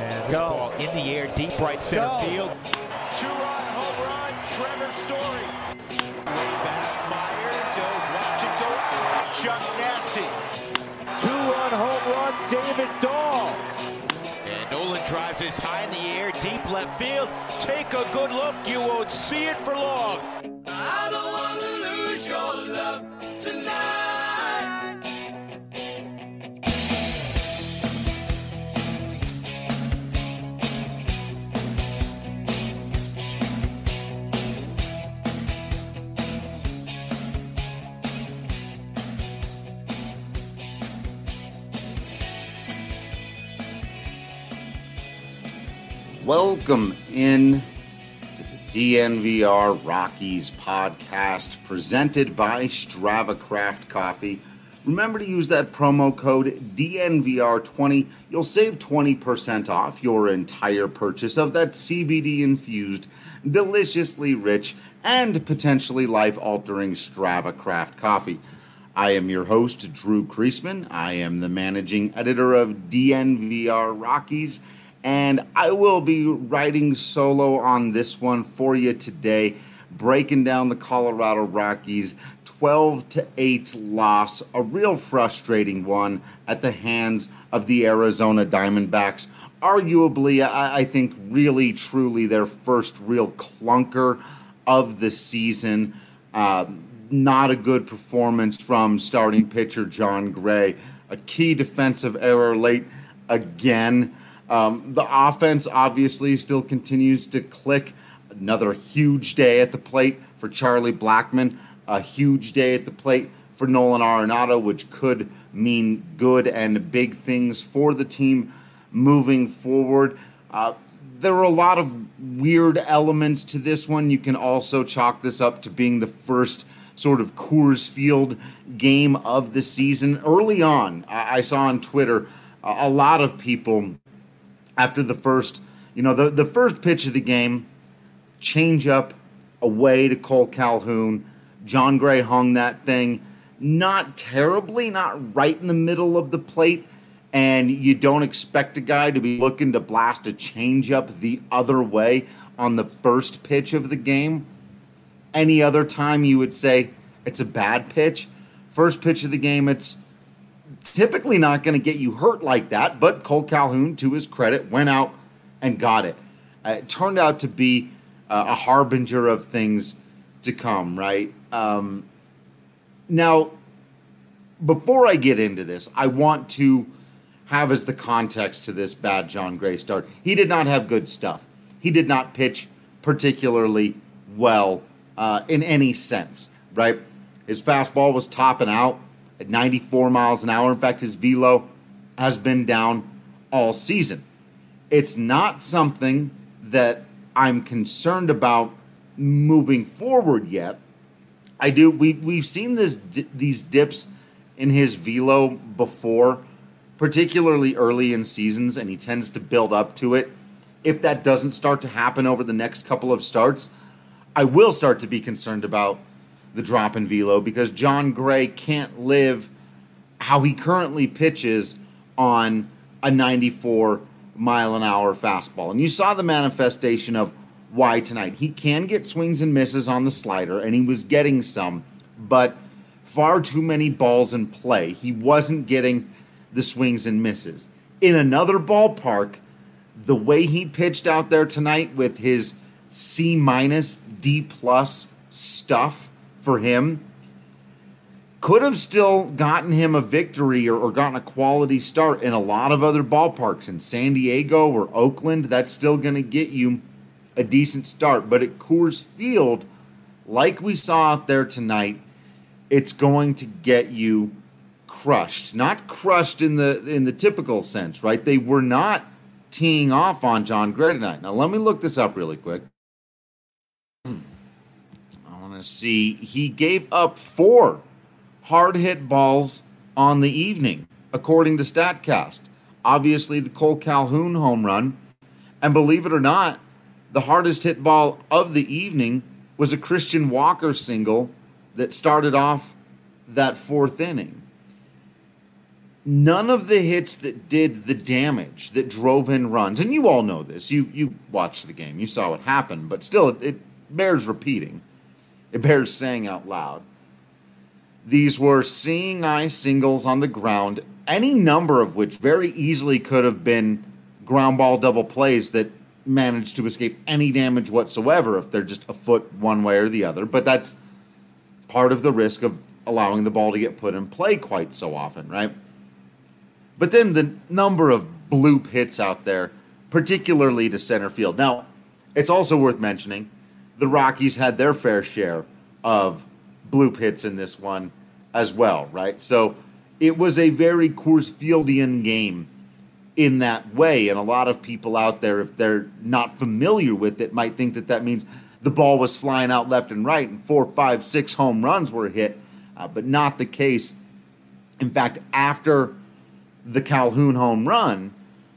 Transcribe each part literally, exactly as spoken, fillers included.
And this Go. ball in the air, deep right center Go. field. Two-run home run, Trevor Story. Way back, Myers. He'll watch it go out. Chuck Nasty. Two-run home run, David Dahl. And Nolan drives this high in the air, deep left field. Take a good look. You won't see it for long. I don't want to lose your love tonight. Welcome in to the D N V R Rockies podcast presented by Strava Craft Coffee. Remember to use that promo code D N V R twenty. You'll save twenty percent off your entire purchase of that C B D-infused, deliciously rich, and potentially life-altering Strava Craft Coffee. I am your host, Drew Kreisman. I am the managing editor of D N V R Rockies, and I will be writing solo on this one for you today, breaking down the Colorado Rockies' twelve to eight loss, a real frustrating one at the hands of the Arizona Diamondbacks. Arguably, I, I think, really, truly their first real clunker of the season. Uh, not a good performance from starting pitcher Jon Gray. A key defensive error late again. Um, the offense obviously still continues to click. Another huge day at the plate for Charlie Blackmon. A huge day at the plate for Nolan Arenado, which could mean good and big things for the team moving forward. Uh, there were a lot of weird elements to this one. You can also chalk this up to being the first sort of Coors Field game of the season. Early on, I, I saw on Twitter uh, a lot of people after the first, you know, the, the first pitch of the game, change up away to Cole Calhoun. Jon Gray hung that thing not terribly, not right in the middle of the plate, and you don't expect a guy to be looking to blast a change up the other way on the first pitch of the game. Any other time you would say it's a bad pitch. First pitch of the game, it's typically not going to get you hurt like that, but Cole Calhoun, to his credit, went out and got it. Uh, it turned out to be uh, a harbinger of things to come, right? Um, now, before I get into this, I want to have as the context to this bad Jon Gray start. He did not have good stuff. He did not pitch particularly well uh, in any sense, right? His fastball was topping out at ninety-four miles an hour. In fact, his velo has been down all season. It's not something that I'm concerned about moving forward yet. I do. We we've seen this these dips in his velo before, particularly early in seasons, and he tends to build up to it. If that doesn't start to happen over the next couple of starts, I will start to be concerned about the drop in velo, because Jon Gray can't live how he currently pitches on a ninety-four mile an hour fastball. And you saw the manifestation of why tonight. He can get swings and misses on the slider, and he was getting some, but far too many balls in play. He wasn't getting the swings and misses. In another ballpark, the way he pitched out there tonight with his C minus, D plus stuff for him could have still gotten him a victory or, or gotten a quality start in a lot of other ballparks. In San Diego or Oakland, that's still going to get you a decent start. But at Coors Field, like we saw out there tonight, it's going to get you crushed. Not crushed in the in the typical sense, right? They were not teeing off on Jon Gray tonight. Now, let me look this up really quick. See, he gave up four hard hit balls on the evening, according to StatCast. Obviously, the Cole Calhoun home run, and believe it or not, the hardest hit ball of the evening was a Christian Walker single that started off that fourth inning. none of the hits that did the damage, that drove in runs, and you all know this, you you watched the game, you saw what happened, but still, it, it bears repeating. It bears saying out loud. These were seeing eye singles on the ground, any number of which very easily could have been ground ball double plays that managed to escape any damage whatsoever if they're just a foot one way or the other. But that's part of the risk of allowing the ball to get put in play quite so often, right? But then the number of bloop hits out there, particularly to center field. Now, it's also worth mentioning the Rockies had their fair share of bloop hits in this one as well, right? So it was a very Coors Fieldian game in that way, and a lot of people out there, if they're not familiar with it, might think that that means the ball was flying out left and right and four, five, six home runs were hit, uh, but not the case. In fact, after the Calhoun home run,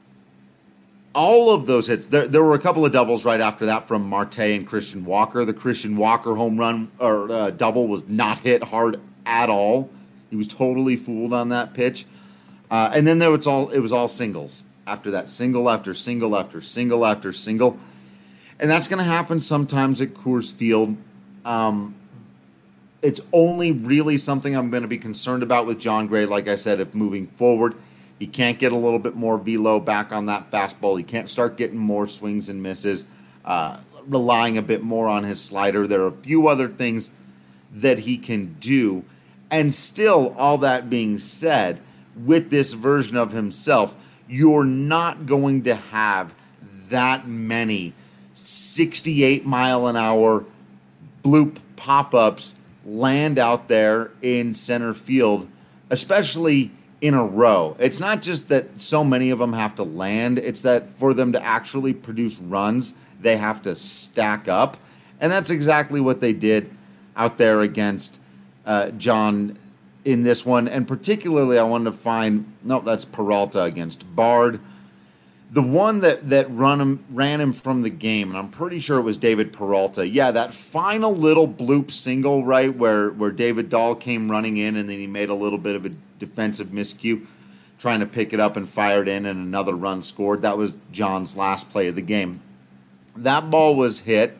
all of those hits, there, there were a couple of doubles right after that from Marte and Christian Walker. The Christian Walker home run or uh, double was not hit hard at all. He was totally fooled on that pitch. Uh, and then there was all it was all singles after that, single after single after single after single, and that's going to happen sometimes at Coors Field. Um, it's only really something I'm going to be concerned about with Jon Gray. Like I said, if moving forward, he can't get a little bit more velo back on that fastball. He can't start getting more swings and misses, uh, relying a bit more on his slider. There are a few other things that he can do, and still, all that being said, with this version of himself, you're not going to have that many sixty-eight mile an hour bloop pop-ups land out there in center field, especially in a row. It's not just that so many of them have to land, it's that for them to actually produce runs, they have to stack up. And that's exactly what they did out there against uh, John in this one, and particularly I wanted to find, no, that's Peralta against Bard. The one that, that run him, ran him from the game, and I'm pretty sure it was David Peralta. Yeah, that final little bloop single, right, where, where David Dahl came running in, and then he made a little bit of a defensive miscue, trying to pick it up and fire it in, and another run scored. That was John's last play of the game. That ball was hit,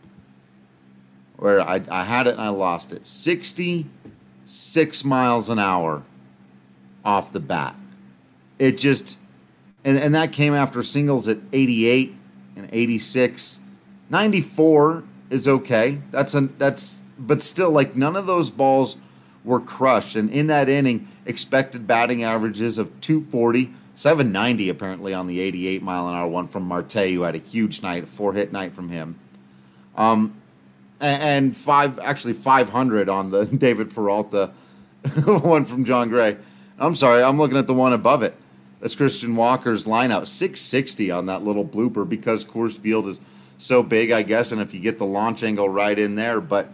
where I, I had it and I lost it. sixty-six miles an hour off the bat. It just, and, and that came after singles at eighty-eight and eighty-six. ninety-four is okay. That's a, that's, but still, like, none of those balls were crushed. And in that inning, expected batting averages of two forty, seven ninety apparently on the eighty-eight mile an hour one from Marte, who had a huge night, a four hit night from him. Um, and five, actually five hundred on the David Peralta one from Jon Gray. I'm sorry, I'm looking at the one above it. That's Christian Walker's lineup. six sixty on that little blooper because Coors Field is so big, I guess, and if you get the launch angle right in there. But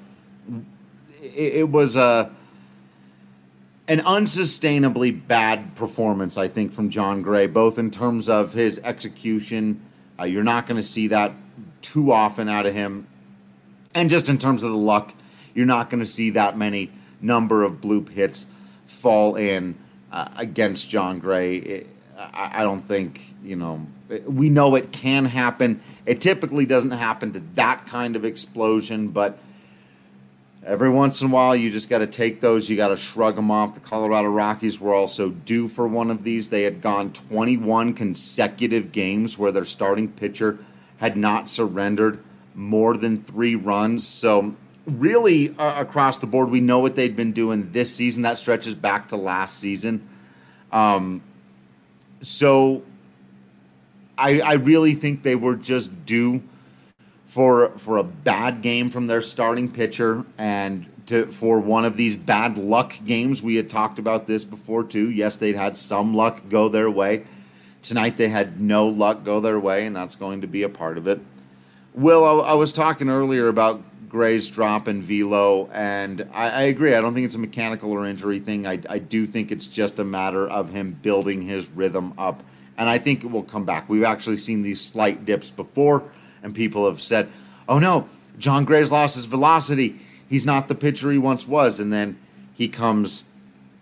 it, it was a, an unsustainably bad performance, I think, from Jon Gray, both in terms of his execution. Uh, you're not going to see that too often out of him. And just in terms of the luck, you're not going to see that many number of bloop hits fall in uh, against Jon Gray. It, I, I don't think, you know, we know it can happen. It typically doesn't happen to that kind of explosion, but every once in a while you just got to take those. You got to shrug them off. The Colorado Rockies were also due for one of these. They had gone twenty-one consecutive games where their starting pitcher had not surrendered more than three runs. So really uh, across the board, we know what they'd been doing this season. That stretches back to last season. Um, so I, I really think they were just due for for a bad game from their starting pitcher and to for one of these bad luck games. We had talked about this before too. Yes, they'd had some luck go their way. Tonight they had no luck go their way, and that's going to be a part of it. Will, I, I was talking earlier about Gray's drop and velo, and I, I agree. I don't think it's a mechanical or injury thing. I, I do think it's just a matter of him building his rhythm up, and I think it will come back. We've actually seen these slight dips before, and people have said, oh no, Jon Gray's lost his velocity. He's not the pitcher he once was, and then he comes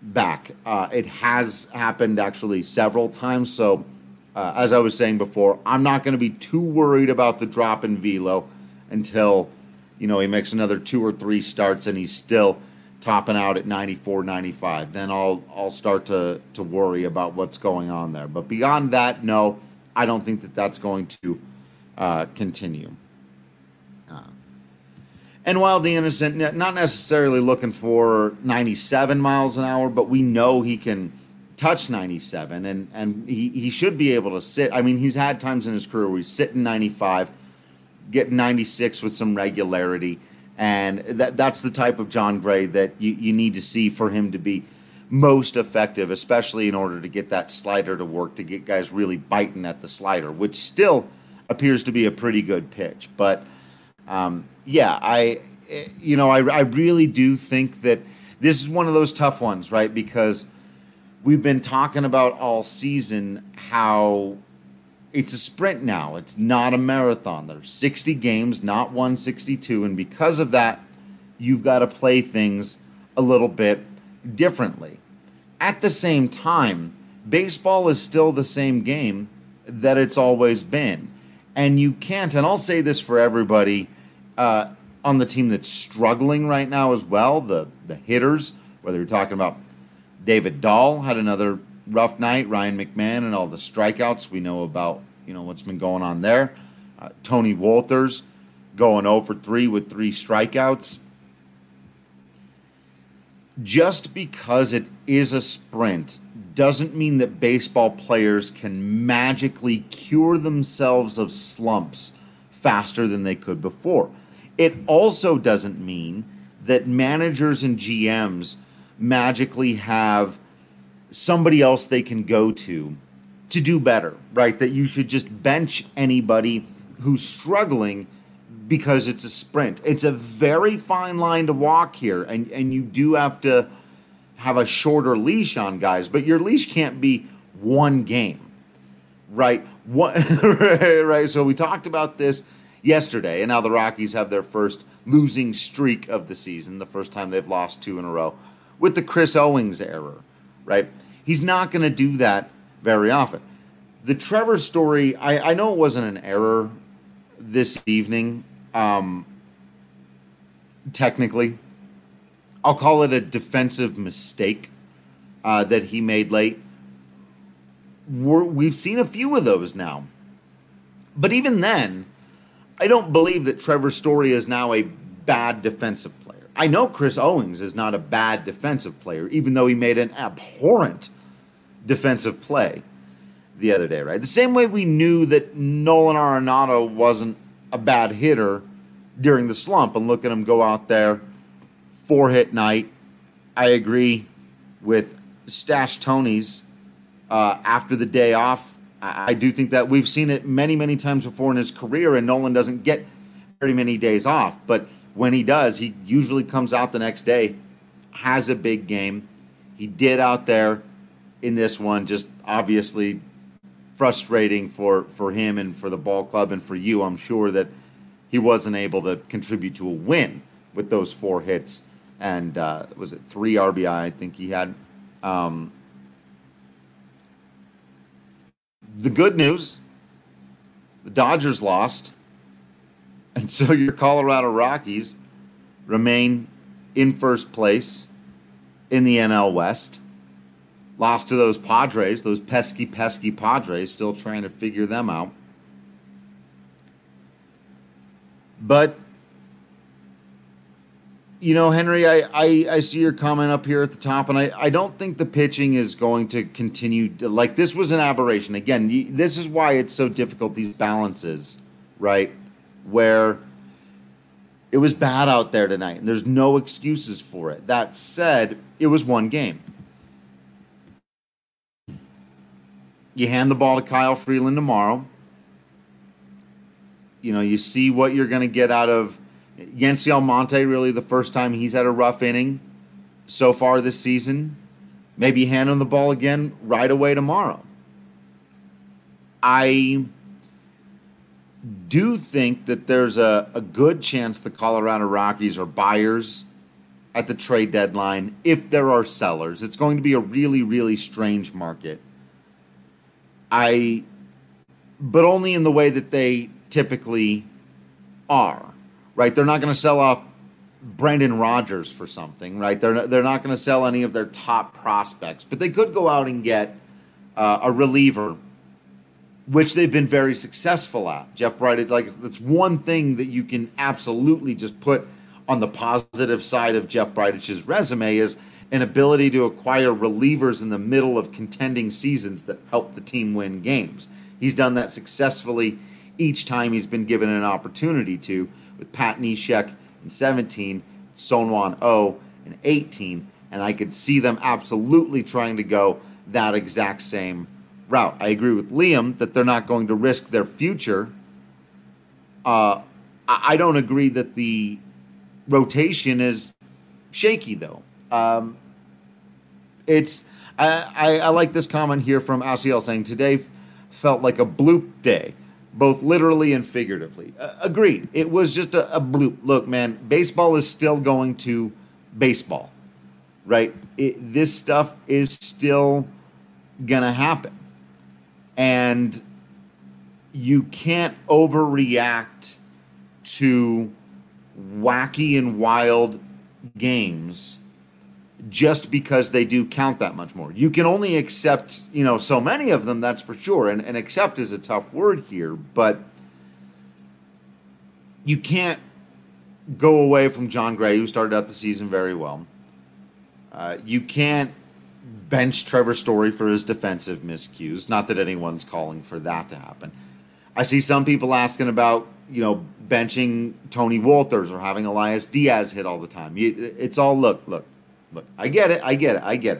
back. Uh, it has happened actually several times. So, uh, as I was saying before, I'm not going to be too worried about the drop in velo until, you know, he makes another two or three starts and he's still topping out at ninety-four, ninety-five. Then I'll I'll start to to worry about what's going on there. But beyond that, no, I don't think that that's going to uh, continue. Uh, and Wild the Innocent, not necessarily looking for ninety-seven miles an hour, but we know he can touch ninety-seven, and, and he, he should be able to sit. I mean, he's had times in his career where he's sitting ninety-five, getting ninety-six with some regularity, and that that's the type of Jon Gray that you, you need to see for him to be most effective, especially in order to get that slider to work, to get guys really biting at the slider, which still appears to be a pretty good pitch. But, um, yeah, I, you know, I, I really do think that this is one of those tough ones, right? Because we've been talking about all season how it's a sprint now. It's not a marathon. There's sixty games, not one sixty-two. And because of that, you've got to play things a little bit differently. At the same time, baseball is still the same game that it's always been. And you can't, and I'll say this for everybody uh, on the team that's struggling right now as well, the, the hitters, whether you're talking about David Dahl had another rough night, Ryan McMahon and all the strikeouts we know about, you know, what's been going on there. Uh, Tony Wolters going oh for three with three strikeouts. Just because it is a sprint doesn't mean that baseball players can magically cure themselves of slumps faster than they could before. It also doesn't mean that managers and G Ms magically have somebody else they can go to to do better, right? That you should just bench anybody who's struggling because it's a sprint. It's a very fine line to walk here, and, and you do have to have a shorter leash on guys, but your leash can't be one game, right? What, right? So we talked about this yesterday, and now the Rockies have their first losing streak of the season, the first time they've lost two in a row, with the Chris Owings error, right? He's not going to do that very often. The Trevor Story, I, I know it wasn't an error this evening, um, technically. I'll call it a defensive mistake uh, that he made late. We're, we've seen a few of those now. But even then, I don't believe that Trevor Story is now a bad defensive player. I know Chris Owings is not a bad defensive player, even though he made an abhorrent defensive play the other day, right? The same way we knew that Nolan Arenado wasn't a bad hitter during the slump, and look at him go out there, four-hit night. I agree with Stash Tony's uh, after the day off. I, I do think that we've seen it many, many times before in his career, and Nolan doesn't get very many days off. But when he does, he usually comes out the next day, has a big game. He did out there in this one, just obviously frustrating for, for him and for the ball club and for you. I'm sure that he wasn't able to contribute to a win with those four hits. And uh, was it three R B I, I think he had. Um, the good news, the Dodgers lost. And so your Colorado Rockies remain in first place in the N L West. Lost to those Padres, those pesky, pesky Padres, still trying to figure them out. But, you know, Henry, I, I, I see your comment up here at the top, and I, I don't think the pitching is going to continue. To, like, this was an aberration. Again, you, this is why it's so difficult, these balances, right, where it was bad out there tonight, and there's no excuses for it. That said, it was one game. You hand the ball to Kyle Freeland tomorrow. You know, you see what you're going to get out of Yency Almonte, really the first time he's had a rough inning so far this season. Maybe hand him the ball again right away tomorrow. I do think that there's a, a good chance the Colorado Rockies are buyers at the trade deadline if there are sellers. It's going to be a really, really strange market. I, but only in the way that they typically are, right? They're not going to sell off Brendan Rodgers for something, right? They're not, they're not going to sell any of their top prospects, but they could go out and get uh, a reliever, which they've been very successful at. Jeff Bridich, like, that's one thing that you can absolutely just put on the positive side of Jeff Bridich's resume is an ability to acquire relievers in the middle of contending seasons that help the team win games. He's done that successfully each time he's been given an opportunity to, with Pat Neshek in seventeen, Sonwan O in eighteen, and I could see them absolutely trying to go that exact same route. I agree with Liam that they're not going to risk their future. Uh, I don't agree that the rotation is shaky, though. Um, it's I, I, I like this comment here from Asiel saying, today felt like a bloop day, both literally and figuratively. Uh, agreed. It was just a, a bloop. Look, man, baseball is still going to baseball, right? It, this stuff is still going to happen. And you can't overreact to wacky and wild games just because they do count that much more. You can only accept, you know, so many of them, that's for sure. And, and accept is a tough word here, but you can't go away from John Gray, who started out the season very well. Uh, you can't bench Trevor Story for his defensive miscues. Not that anyone's calling for that to happen. I see some people asking about, you know, benching Tony Wolters or having Elias Diaz hit all the time. It's all, look, look, look. I get it, I get it, I get it.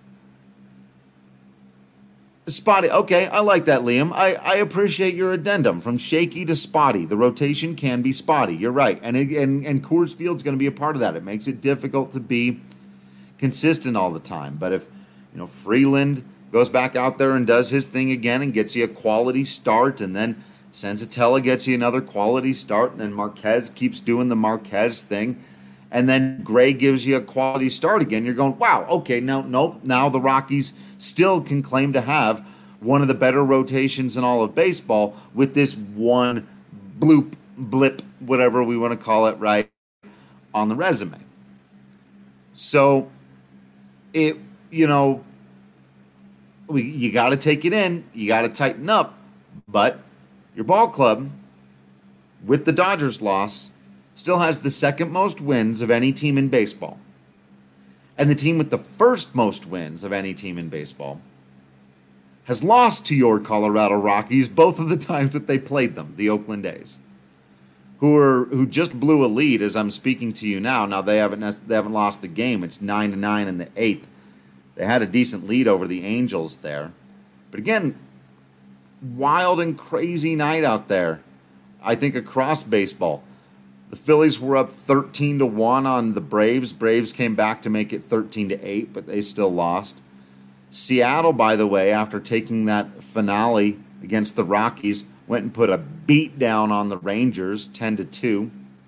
Spotty, okay, I like that, Liam. I, I appreciate your addendum. From shaky to spotty, the rotation can be spotty. You're right, and it, and and Coors Field's going to be a part of that. It makes it difficult to be consistent all the time. But if, you know, Freeland goes back out there and does his thing again and gets you a quality start, and then Senzatella gets you another quality start, and then Marquez keeps doing the Marquez thing, and then Gray gives you a quality start again, you're going, wow, okay, now, nope, now the Rockies still can claim to have one of the better rotations in all of baseball with this one bloop, blip, whatever we want to call it, right, on the resume. So, it, you know, we, you got to take it in, you got to tighten up, but your ball club, with the Dodgers loss, still has the second most wins of any team in baseball. And the team with the first most wins of any team in baseball has lost to your Colorado Rockies both of the times that they played them, the Oakland A's, who are who just blew a lead as I'm speaking to you now. Now they haven't they haven't lost the game. It's nine to nine in the eighth. They had a decent lead over the Angels there, but again, wild and crazy night out there. I think across baseball. The Phillies were up thirteen to one on the Braves. Braves came back to make it thirteen to eight, but they still lost. Seattle, by the way, after taking that finale against the Rockies, went and put a beat down on the Rangers, ten to two.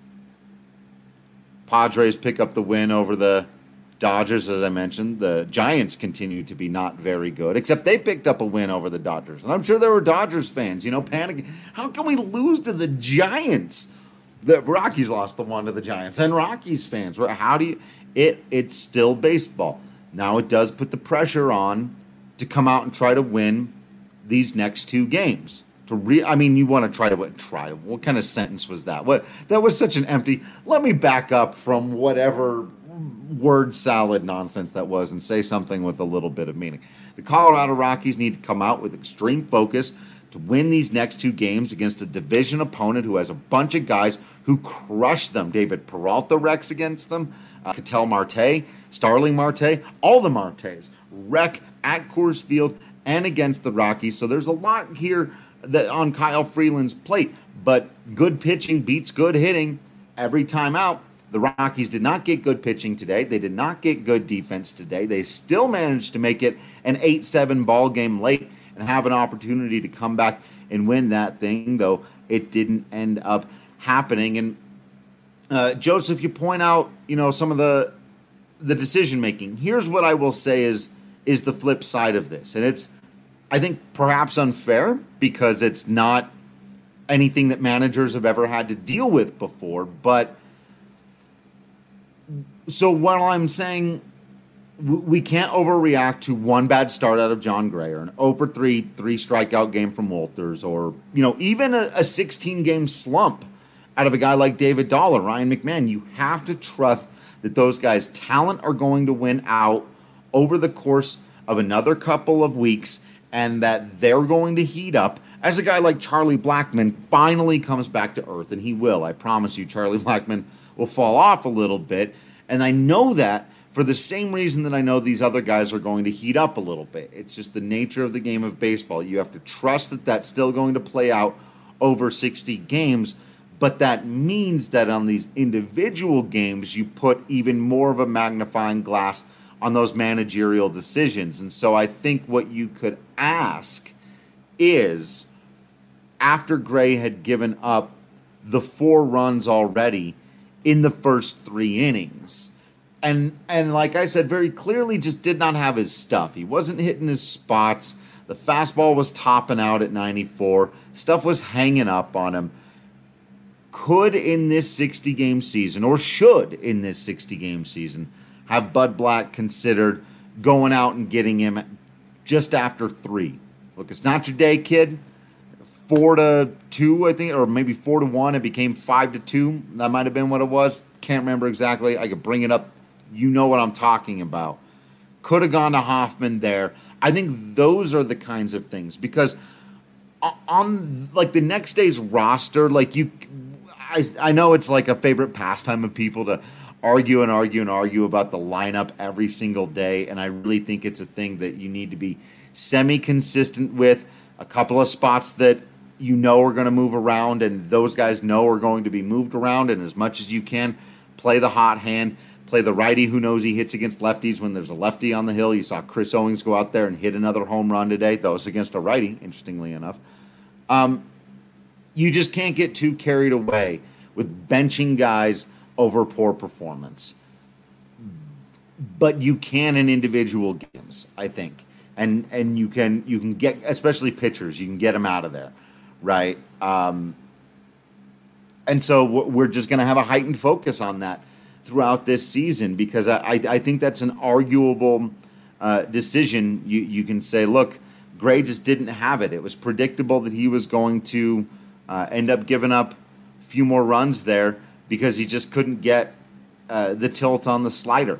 Padres pick up the win over the Dodgers, as I mentioned. The Giants continue to be not very good, except they picked up a win over the Dodgers. And I'm sure there were Dodgers fans, you know, panicking. How can we lose to the Giants? The Rockies lost the one to the Giants. And Rockies fans, how do you... It, it's still baseball. Now it does put the pressure on to come out and try to win these next two games. To re, I mean, you want to try to win. Try to... What kind of sentence was that? What? That was such an empty... Let me back up from whatever word salad nonsense that was and say something with a little bit of meaning. The Colorado Rockies need to come out with extreme focus to win these next two games against a division opponent who has a bunch of guys who crush them. David Peralta wrecks against them. Uh, Ketel Marte, Starling Marte, all the Martes wreck at Coors Field and against the Rockies. So there's a lot here that on Kyle Freeland's plate. But good pitching beats good hitting every time out. The Rockies did not get good pitching today. They did not get good defense today. They still managed to make it an eight seven ball game late and have an opportunity to come back and win that thing, though it didn't end up happening. And uh, Joseph, you point out, you know, some of the the decision making. Here's what I will say is is the flip side of this, and it's I think perhaps unfair because it's not anything that managers have ever had to deal with before. But so while I'm saying we can't overreact to one bad start out of Jon Gray or an oh for three, three strikeout game from Wolters, or, you know, even a sixteen-game slump out of a guy like David Dahl or Ryan McMahon. You have to trust that those guys' talent are going to win out over the course of another couple of weeks and that they're going to heat up as a guy like Charlie Blackmon finally comes back to earth, and he will. I promise you, Charlie Blackmon will fall off a little bit, and I know that for the same reason that I know these other guys are going to heat up a little bit. It's just the nature of the game of baseball. You have to trust that that's still going to play out over sixty games, but that means that on these individual games, you put even more of a magnifying glass on those managerial decisions. And so I think what you could ask is, after Gray had given up the four runs already in the first three innings, And and like I said, very clearly just did not have his stuff. He wasn't hitting his spots. The fastball was topping out at ninety-four. Stuff was hanging up on him. Could in this sixty-game season, or should in this sixty-game season, have Bud Black considered going out and getting him just after three? Look, it's not your day, kid. Four to two, I think, or maybe four to one. It became five to two. That might have been what it was. Can't remember exactly. I could bring it up. You know what I'm talking about. Could have gone to Hoffman there. I think those are the kinds of things, because on like the next day's roster, like you, I, I know it's like a favorite pastime of people to argue and argue and argue about the lineup every single day, and I really think it's a thing that you need to be semi-consistent with. A couple of spots that you know are going to move around, and those guys know are going to be moved around, and as much as you can, play the hot hand. Play the righty who knows he hits against lefties when there's a lefty on the hill. You saw Chris Owings go out there and hit another home run today, though it's against a righty, interestingly enough. Um, you just can't get too carried away with benching guys over poor performance. But you can in individual games, I think. And and you can you can get, especially pitchers, you can get them out of there, right? Um, and so we're just going to have a heightened focus on that throughout this season, because I, I think that's an arguable uh, decision. You you can say, look, Gray just didn't have it. It was predictable that he was going to uh, end up giving up a few more runs there because he just couldn't get uh, the tilt on the slider,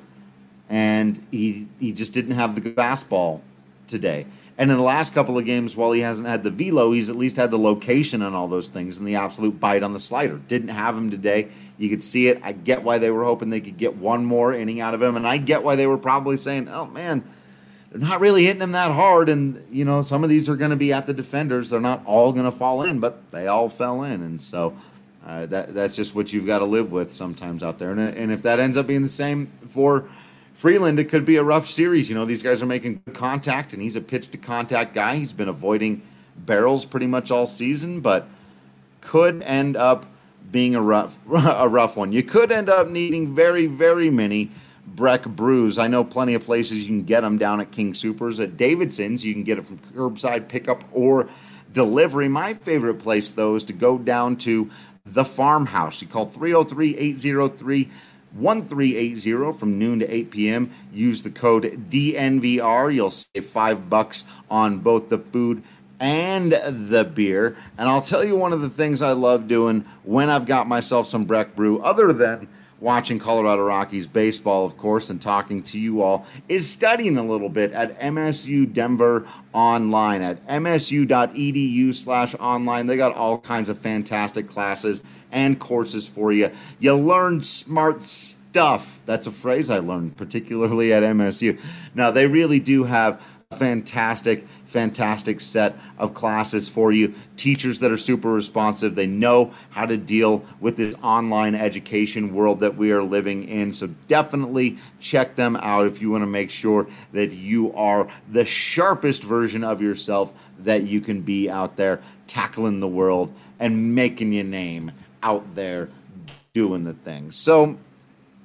and he he just didn't have the fastball today. And in the last couple of games, while he hasn't had the velo, he's at least had the location and all those things and the absolute bite on the slider. Didn't have him today. You could see it. I get why they were hoping they could get one more inning out of him, and I get why they were probably saying, oh, man, they're not really hitting him that hard, and, you know, some of these are going to be at the defenders. They're not all going to fall in, but they all fell in, and so uh, that that's just what you've got to live with sometimes out there. And, and if that ends up being the same for Freeland, it could be a rough series. You know, these guys are making good contact, and he's a pitch-to-contact guy. He's been avoiding barrels pretty much all season, but could end up being a rough a rough one. You could end up needing very, very many Breck brews. I know plenty of places you can get them down at King Soopers. At Davidson's, you can get it from curbside pickup or delivery. My favorite place, though, is to go down to the Farmhouse. You call three oh three, eight oh three, one three eight zero from noon to eight p.m. Use the code D N V R. You'll save five bucks on both the food and the beer. And I'll tell you one of the things I love doing when I've got myself some Breck Brew, other than watching Colorado Rockies baseball, of course, and talking to you all, is studying a little bit at M S U Denver Online at M S U dot E D U slash online. They got all kinds of fantastic classes and courses for you. You learn smart stuff. That's a phrase I learned, particularly at M S U. Now, they really do have a fantastic fantastic set of classes for you. Teachers that are super responsive. They know how to deal with this online education world that we are living in. So definitely check them out if you want to make sure that you are the sharpest version of yourself that you can be out there tackling the world and making your name out there doing the thing. So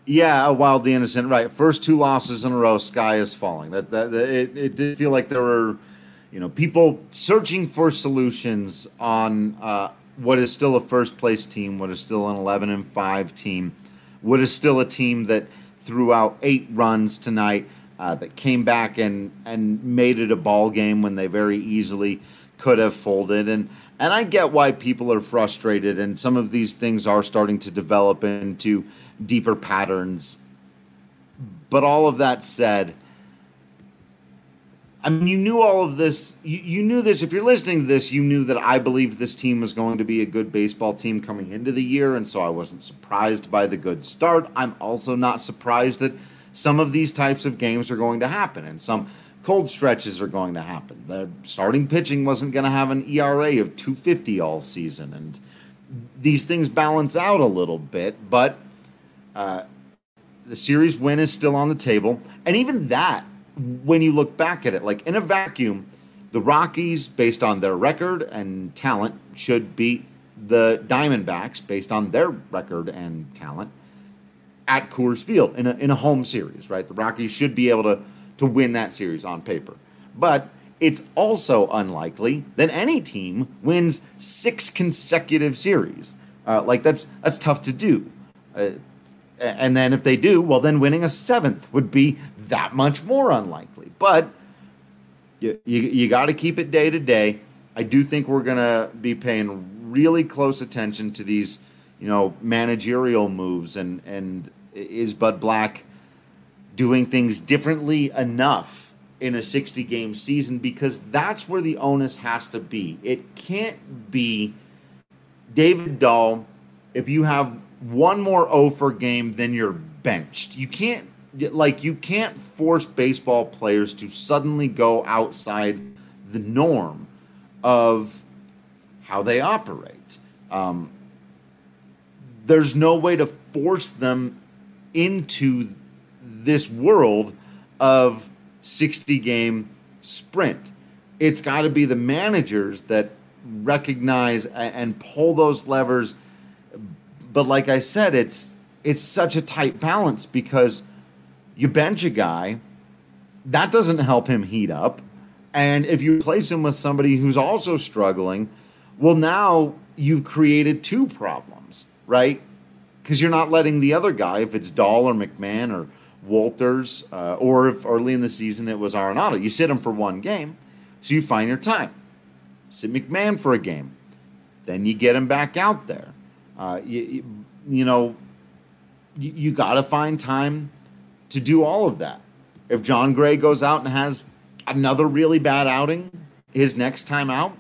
Yeah, wildly innocent. Right, first two losses in a row, sky is falling. That that, that it, it did feel like there were, you know, people searching for solutions on uh, what is still a first place team, what is still an eleven and five team, what is still a team that threw out eight runs tonight, uh, that came back and and made it a ball game when they very easily could have folded. And and I get why people are frustrated, and some of these things are starting to develop into deeper patterns. But all of that said, I mean, you knew all of this. You, you knew this. If you're listening to this, you knew that I believed this team was going to be a good baseball team coming into the year, and so I wasn't surprised by the good start. I'm also not surprised that some of these types of games are going to happen, and some cold stretches are going to happen. The starting pitching wasn't going to have an E R A of two fifty all season, and these things balance out a little bit, but uh, the series win is still on the table, and even that, when you look back at it, like in a vacuum, the Rockies, based on their record and talent, should beat the Diamondbacks, based on their record and talent, at Coors Field in a, in a home series, right? The Rockies should be able to, to win that series on paper. But it's also unlikely that any team wins six consecutive series. Uh, like, that's that's tough to do. Uh, and then if they do, well, then winning a seventh would be that much more unlikely. But you, you, you got to keep it day to day. I do think we're going to be paying really close attention to these, you know, managerial moves, and, and is Bud Black doing things differently enough in a sixty-game season, because that's where the onus has to be. It can't be David Dahl, if you have one more oh for game, then you're benched. You can't, like, you can't force baseball players to suddenly go outside the norm of how they operate. Um, there's no way to force them into this world of sixty-game sprint. It's got to be the managers that recognize and pull those levers. But like I said, it's it's such a tight balance, because you bench a guy, that doesn't help him heat up. And if you replace him with somebody who's also struggling, well, now you've created two problems, right? Because you're not letting the other guy, if it's Dahl or McMahon or Walters, uh, or if early in the season it was Arenado, you sit him for one game, so you find your time. Sit McMahon for a game, then you get him back out there. Uh, you, you, you know, you, you got to find time to do all of that. If John Gray goes out and has another really bad outing his next time out,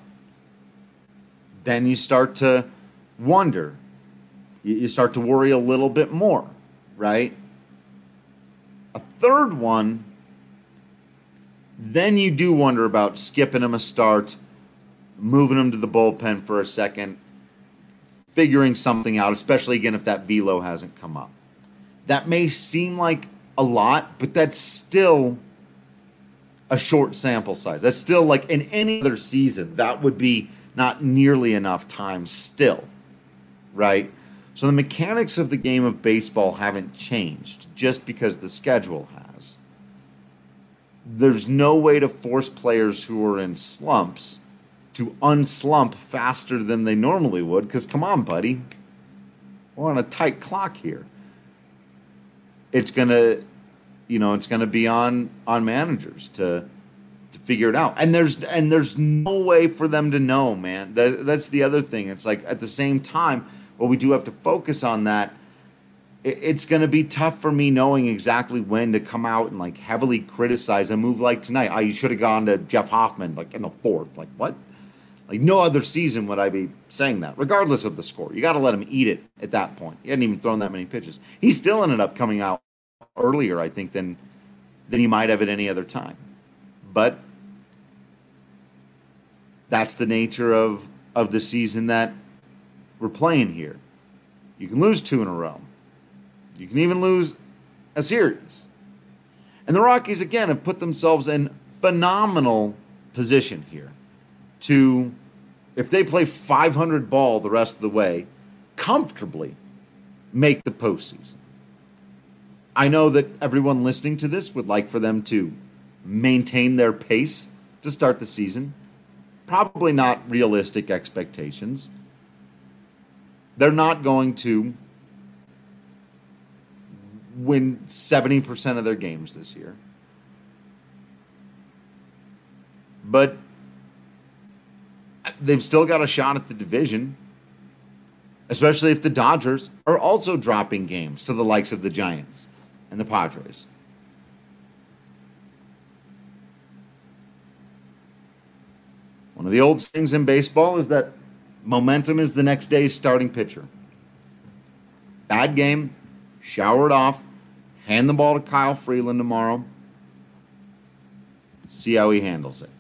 then you start to wonder. You, you start to worry a little bit more, right? A third one, then you do wonder about skipping him a start, moving him to the bullpen for a second, figuring something out, especially, again, if that velo hasn't come up. That may seem like a lot, but that's still a short sample size. That's still, like, in any other season, that would be not nearly enough time still, right? So the mechanics of the game of baseball haven't changed just because the schedule has. There's no way to force players who are in slumps to unslump faster than they normally would, because, come on, buddy, we're on a tight clock here. It's gonna, you know, it's gonna be on on managers to to figure it out, and there's and there's no way for them to know, man. That, that's the other thing. It's like, at the same time, well, we do have to focus on that. It, it's gonna be tough for me knowing exactly when to come out and, like, heavily criticize a move like tonight. Oh, you should have gone to Jeff Hoffman, like, in the fourth. Like, what? Like, no other season would I be saying that, regardless of the score. You got to let him eat it at that point. He hadn't even thrown that many pitches. He still ended up coming out earlier, I think, than than he might have at any other time. But that's the nature of, of the season that we're playing here. You can lose two in a row. You can even lose a series. And the Rockies, again, have put themselves in phenomenal position here to, if they play five hundred ball the rest of the way, comfortably make the postseason. I know that everyone listening to this would like for them to maintain their pace to start the season. Probably not realistic expectations. They're not going to win seventy percent of their games this year. But they've still got a shot at the division, especially if the Dodgers are also dropping games to the likes of the Giants and the Padres. One of the old things in baseball is that momentum is the next day's starting pitcher. Bad game, shower it off, hand the ball to Kyle Freeland tomorrow, see how he handles it.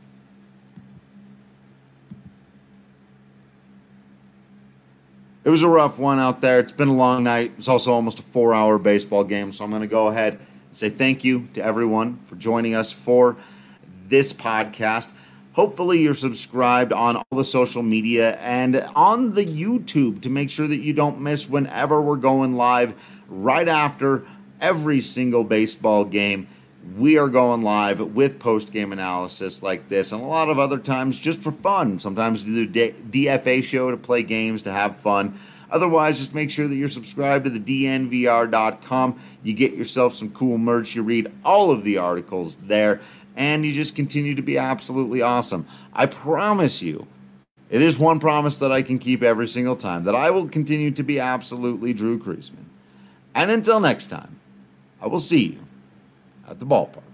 It was a rough one out there. It's been a long night. It's also almost a four-hour baseball game, so I'm going to go ahead and say thank you to everyone for joining us for this podcast. Hopefully you're subscribed on all the social media and on the YouTube to make sure that you don't miss whenever we're going live right after every single baseball game. We are going live with post-game analysis like this and a lot of other times just for fun. Sometimes we do the D F A show to play games, to have fun. Otherwise, just make sure that you're subscribed to the D N V R dot com. You get yourself some cool merch. You read all of the articles there, and you just continue to be absolutely awesome. I promise you, it is one promise that I can keep every single time, that I will continue to be absolutely Drew Creasman. And until next time, I will see you at the ballpark.